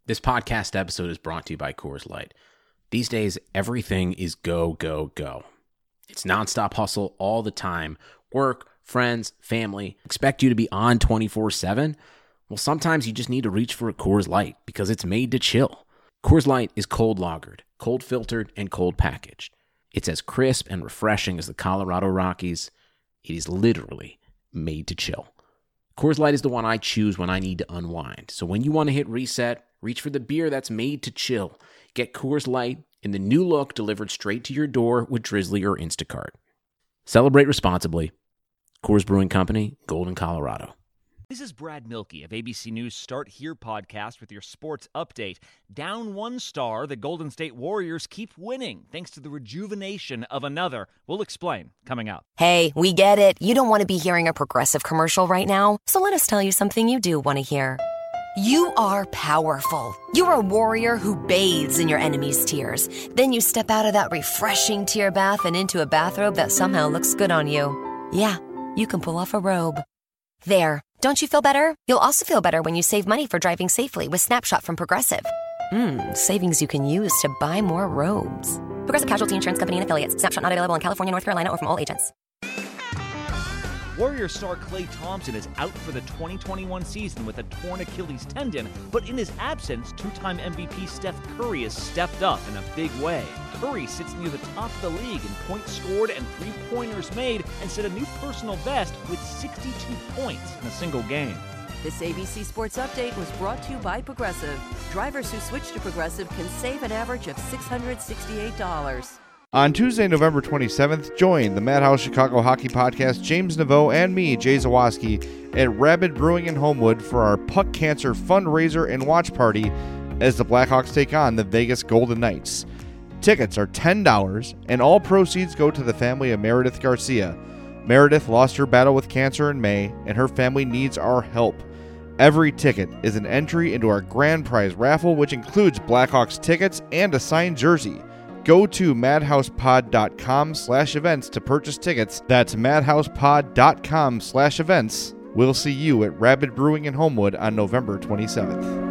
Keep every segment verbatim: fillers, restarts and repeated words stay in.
This podcast episode is brought to you by Coors Light. These days, everything is go, go, go. It's nonstop hustle all the time. Work, friends, family, expect you to be on twenty-four seven. Well, sometimes you just need to reach for a Coors Light because it's made to chill. Coors Light is cold lagered, cold filtered, and cold packaged. It's as crisp and refreshing as the Colorado Rockies. It is literally made to chill. Coors Light is the one I choose when I need to unwind. So when you want to hit reset, reach for the beer that's made to chill. Get Coors Light in the new look delivered straight to your door with Drizzly or Instacart. Celebrate responsibly. Coors Brewing Company, Golden, Colorado. This is Brad Milkey of A B C News Start Here podcast with your sports update. Down one star, the Golden State Warriors keep winning thanks to the rejuvenation of another. We'll explain coming up. Hey, we get it. You don't want to be hearing a Progressive commercial right now, so let us tell you something you do want to hear. You are powerful. You're a warrior who bathes in your enemy's tears. Then you step out of that refreshing tear bath and into a bathrobe that somehow looks good on you. Yeah, you can pull off a robe. There. Don't you feel better? You'll also feel better when you save money for driving safely with Snapshot from Progressive. Mmm, savings you can use to buy more robes. Progressive Casualty Insurance Company and Affiliates. Snapshot not available in California, North Carolina, or from all agents. Warrior star Klay Thompson is out for the twenty twenty-one season with a torn Achilles tendon, but in his absence, two-time M V P Steph Curry has stepped up in a big way. Curry sits near the top of the league in points scored and three-pointers made and set a new personal best with sixty-two points in a single game. This A B C Sports Update was brought to you by Progressive. Drivers who switch to Progressive can save an average of six hundred sixty-eight dollars. On Tuesday, November twenty-seventh, join the Madhouse Chicago Hockey Podcast, James Naveau and me, Jay Zawaski, at Rabid Brewing in Homewood for our Puck Cancer fundraiser and watch party as the Blackhawks take on the Vegas Golden Knights. Tickets are ten dollars, and all proceeds go to the family of Meredith Garcia. Meredith lost her battle with cancer in May, and her family needs our help. Every ticket is an entry into our grand prize raffle, which includes Blackhawks tickets and a signed jersey. Go to madhousepod.com slash events to purchase tickets. That's madhousepod.com slash events. We'll see you at Rabid Brewing in Homewood on November twenty-seventh.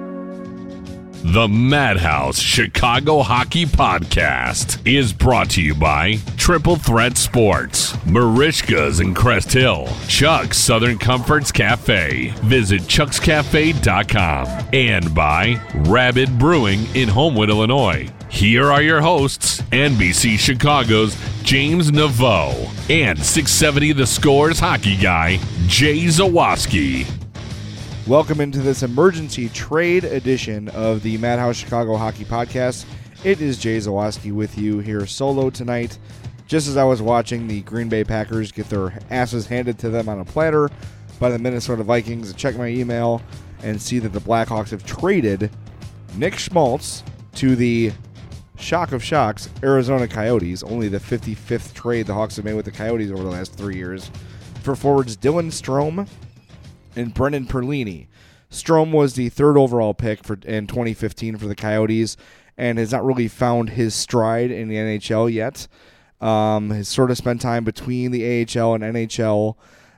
The Madhouse Chicago Hockey Podcast is brought to you by Triple Threat Sports, Marishka's in Crest Hill, Chuck's Southern Comforts Cafe. Visit chucks cafe dot com, and by Rabid Brewing in Homewood, Illinois. Here are your hosts, N B C Chicago's James Naveau and six seventy The Score's hockey guy, Jay Zawaski. Welcome into this emergency trade edition of the Madhouse Chicago Hockey Podcast. It is Jay Zawaski with you here solo tonight. Just as I was watching the Green Bay Packers get their asses handed to them on a platter by the Minnesota Vikings, I check my email and see that the Blackhawks have traded Nick Schmaltz to the shock of shocks, Arizona Coyotes, only the fifty-fifth trade the Hawks have made with the Coyotes over the last three years, for forwards Dylan Strome and Brendan Perlini. Strome was the third overall pick for in twenty fifteen for the Coyotes and has not really found his stride in the N H L yet. Um, has sort of spent time between the A H L and N H L.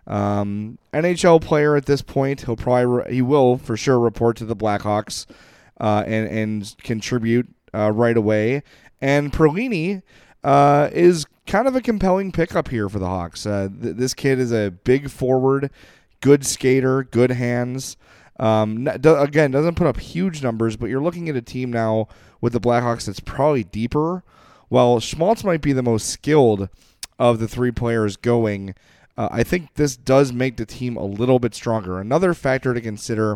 Um, N H L player at this point. He'll probably re- he will for sure report to the Blackhawks uh, and and contribute uh, right away. And Perlini uh, is kind of a compelling pickup here for the Hawks. Uh, th- this kid is a big forward. Good skater, good hands. Um, do, again, doesn't put up huge numbers, but you're looking at a team now with the Blackhawks that's probably deeper. While Schmaltz might be the most skilled of the three players going, uh, I think this does make the team a little bit stronger. Another factor to consider,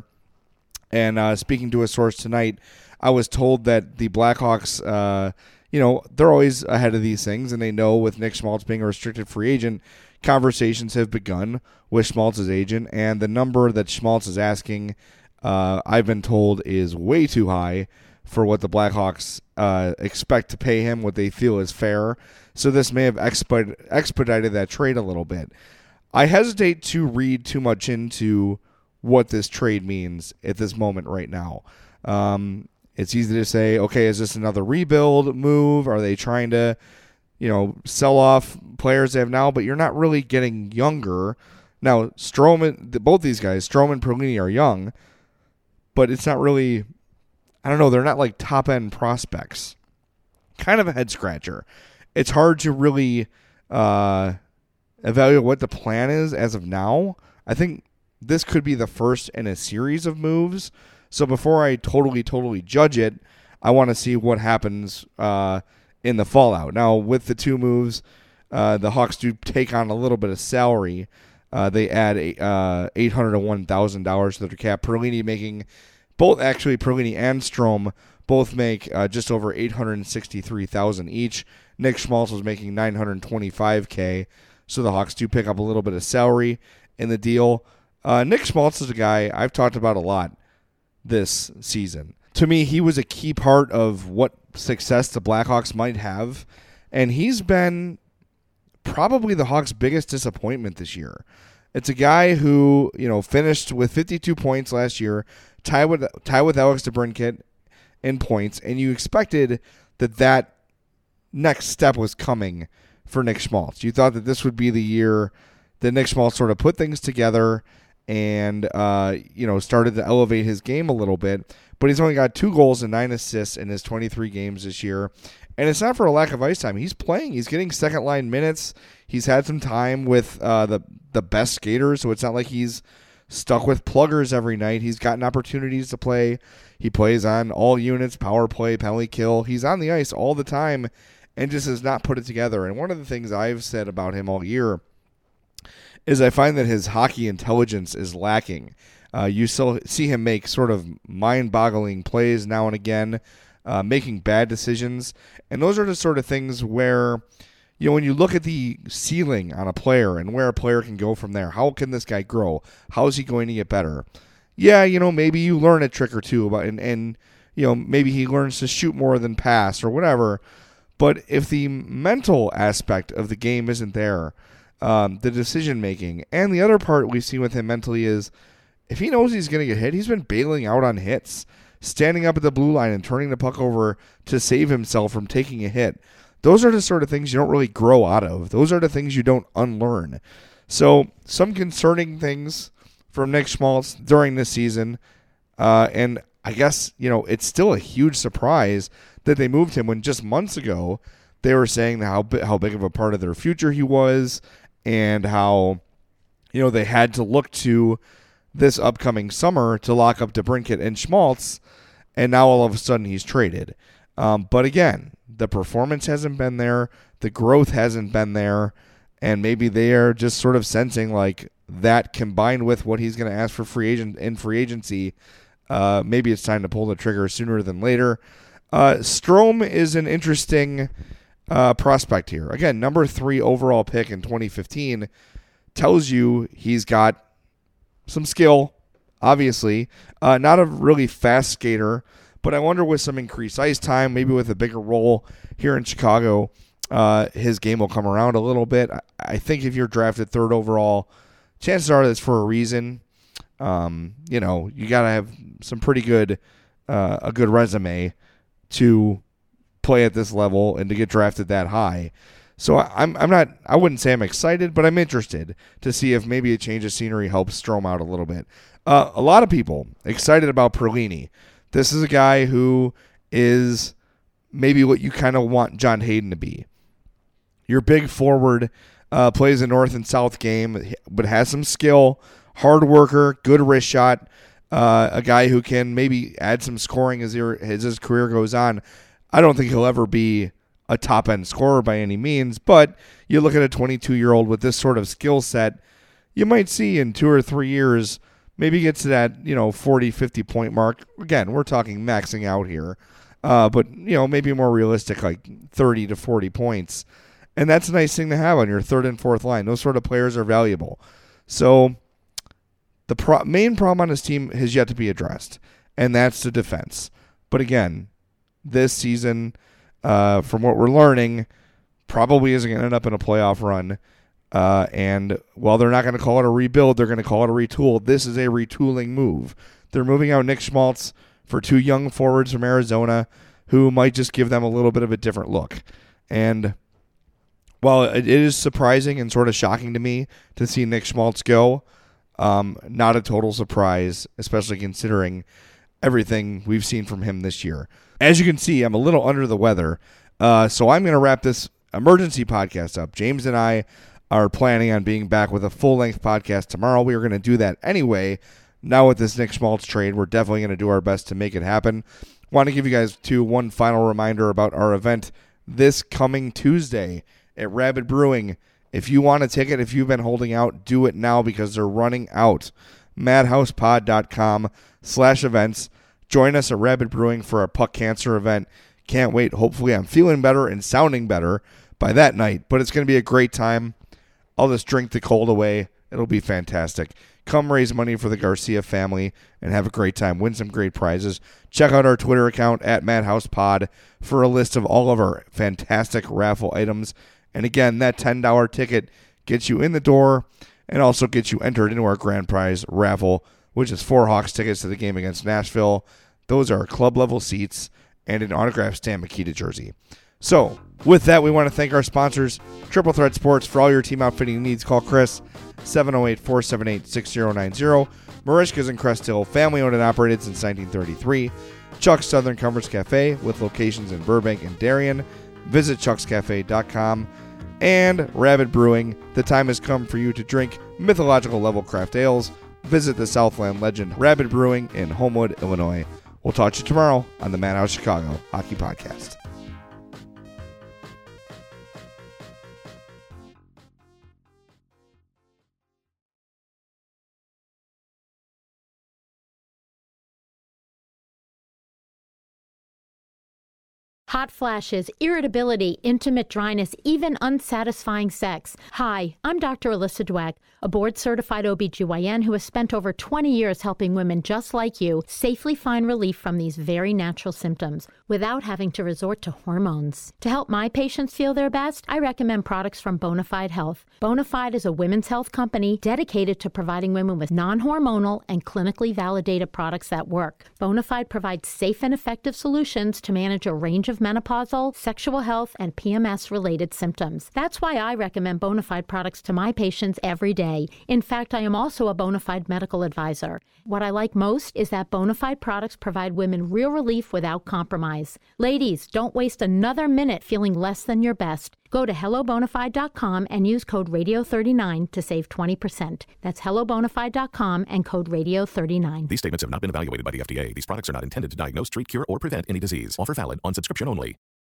and uh, speaking to a source tonight, I was told that the Blackhawks, uh, you know, they're always ahead of these things, and they know with Nick Schmaltz being a restricted free agent, conversations have begun with Schmaltz's agent, and the number that Schmaltz is asking, uh, I've been told, is way too high for what the Blackhawks uh, expect to pay him, what they feel is fair. So this may have exped- expedited that trade a little bit. I hesitate to read too much into what this trade means at this moment right now. Um, it's easy to say, okay, is this another rebuild move? Are they trying to, you know, sell off players they have now? But you're not really getting younger. Now, Strome, both these guys, Strome and Perlini, are young, but it's not really I don't know, they're not like top-end prospects. Kind of a head-scratcher. It's hard to really uh, evaluate what the plan is as of now. I think this could be the first in a series of moves. So before I totally, totally judge it, I want to see what happens uh, in the fallout. Now, with the two moves, uh, the Hawks do take on a little bit of salary. Uh, they add uh, eight hundred one thousand dollars to their cap. Perlini making, both actually, Perlini and Strome both make uh, just over eight hundred sixty-three thousand dollars each. Nick Schmaltz was making nine hundred twenty-five thousand dollars, so the Hawks do pick up a little bit of salary in the deal. Uh, Nick Schmaltz is a guy I've talked about a lot this season. To me, he was a key part of what success the Blackhawks might have, and he's been probably the Hawks' biggest disappointment this year. It's a guy who, you know, finished with fifty-two points last year, tied with tied with Alex DeBrincat in points, and you expected that that next step was coming for Nick Schmaltz. You thought that this would be the year that Nick Schmaltz sort of put things together and uh, you know, started to elevate his game a little bit. But he's only got two goals and nine assists in his twenty-three games this year. And it's not for a lack of ice time. He's playing. He's getting second-line minutes. He's had some time with uh, the, the best skaters, so it's not like he's stuck with pluggers every night. He's gotten opportunities to play. He plays on all units, power play, penalty kill. He's on the ice all the time and just has not put it together. And one of the things I've said about him all year is I find that his hockey intelligence is lacking. Uh, you still see him make sort of mind-boggling plays now and again, uh, making bad decisions. And those are the sort of things where, you know, when you look at the ceiling on a player and where a player can go from there, how can this guy grow? How is he going to get better? Yeah, you know, maybe you learn a trick or two about, and, and, you know, maybe he learns to shoot more than pass or whatever. But if the mental aspect of the game isn't there, um, the decision-making, and the other part we've seen with him mentally is if he knows he's going to get hit, he's been bailing out on hits, standing up at the blue line and turning the puck over to save himself from taking a hit. Those are the sort of things you don't really grow out of. Those are the things you don't unlearn. So some concerning things from Nick Schmaltz during this season. Uh, and I guess, you know, it's still a huge surprise that they moved him when just months ago they were saying how, how big of a part of their future he was and how, you know, they had to look to this upcoming summer to lock up DeBrincat and Schmaltz, and now all of a sudden he's traded. Um, but again, the performance hasn't been there, the growth hasn't been there, and maybe they are just sort of sensing like that combined with what he's going to ask for free agent in free agency, uh, maybe it's time to pull the trigger sooner than later. Uh, Strome is an interesting uh, prospect here. Again, number three overall pick in twenty fifteen tells you he's got some skill, obviously. Uh, not a really fast skater, but I wonder with some increased ice time, maybe with a bigger role here in Chicago, uh, his game will come around a little bit. I, I think if you're drafted third overall, chances are that's for a reason. Um, you know, you got to have some pretty good, uh, a good resume to play at this level and to get drafted that high. So I'm I'm not I wouldn't say I'm excited, but I'm interested to see if maybe a change of scenery helps Strome out a little bit. Uh, a lot of people excited about Perlini. This is a guy who is maybe what you kind of want John Hayden to be. Your big forward, uh, plays a north and south game, but has some skill, hard worker, good wrist shot, uh, a guy who can maybe add some scoring as, your, as his career goes on. I don't think he'll ever be a top-end scorer by any means, but you look at a twenty-two-year-old with this sort of skill set, you might see in two or three years maybe gets to that, you know, forty, fifty-point mark. Again, we're talking maxing out here, uh, but, you know, maybe more realistic, like thirty to forty points. And that's a nice thing to have on your third and fourth line. Those sort of players are valuable. So the pro- main problem on his team has yet to be addressed, and that's the defense. But again, this season, Uh, from what we're learning, probably isn't going to end up in a playoff run. Uh, and while they're not going to call it a rebuild, they're going to call it a retool. This is a retooling move. They're moving out Nick Schmaltz for two young forwards from Arizona who might just give them a little bit of a different look. And while it is surprising and sort of shocking to me to see Nick Schmaltz go, um, not a total surprise, especially considering everything we've seen from him this year. As you can see, I'm a little under the weather, uh, so I'm going to wrap this emergency podcast up. James and I are planning on being back with a full-length podcast tomorrow. We were going to do that anyway. Now with this Nick Schmaltz trade, we're definitely going to do our best to make it happen. Want to give you guys, too, one final reminder about our event this coming Tuesday at Rabid Brewing. If you want a ticket, if you've been holding out, do it now because they're running out. madhousepod.com slash events. Join us at Rabid Brewing for our Puck Cancer event. Can't wait. Hopefully I'm feeling better and sounding better by that night. But it's going to be a great time. I'll just drink the cold away. It'll be fantastic. Come raise money for the Garcia family and have a great time. Win some great prizes. Check out our Twitter account at MadhousePod for a list of all of our fantastic raffle items. And again, that ten dollars ticket gets you in the door and also gets you entered into our grand prize raffle, which is four Hawks tickets to the game against Nashville. Those are club-level seats and an autographed Stan Mikita jersey. So, with that, we want to thank our sponsors, Triple Threat Sports. For all your team outfitting needs, call Chris, seven oh eight, four seven eight, six zero nine zero. Marishka's in Crest Hill, family-owned and operated since nineteen thirty-three. Chuck's Southern Comforts Cafe, with locations in Burbank and Darien. Visit chucks cafe dot com. And Rabid Brewing. The time has come for you to drink mythological level craft ales. Visit the Southland legend Rabid Brewing in Homewood, Illinois. We'll talk to you tomorrow on the Madhouse Chicago Hockey Podcast. Hot flashes, irritability, intimate dryness, even unsatisfying sex. Hi, I'm Doctor Alyssa Dweck, a board-certified O B G Y N who has spent over twenty years helping women just like you safely find relief from these very natural symptoms without having to resort to hormones. To help my patients feel their best, I recommend products from Bonafide Health. Bonafide is a women's health company dedicated to providing women with non-hormonal and clinically validated products that work. Bonafide provides safe and effective solutions to manage a range of menopausal, sexual health, and P M S-related symptoms. That's why I recommend Bonafide products to my patients every day. In fact, I am also a Bonafide medical advisor. What I like most is that Bonafide products provide women real relief without compromise. Ladies, don't waste another minute feeling less than your best. Go to hello bonafide dot com and use code radio thirty-nine to save twenty percent. That's hello bonafide dot com and code radio thirty-nine. These statements have not been evaluated by the F D A. These products are not intended to diagnose, treat, cure, or prevent any disease. Offer valid on subscription only.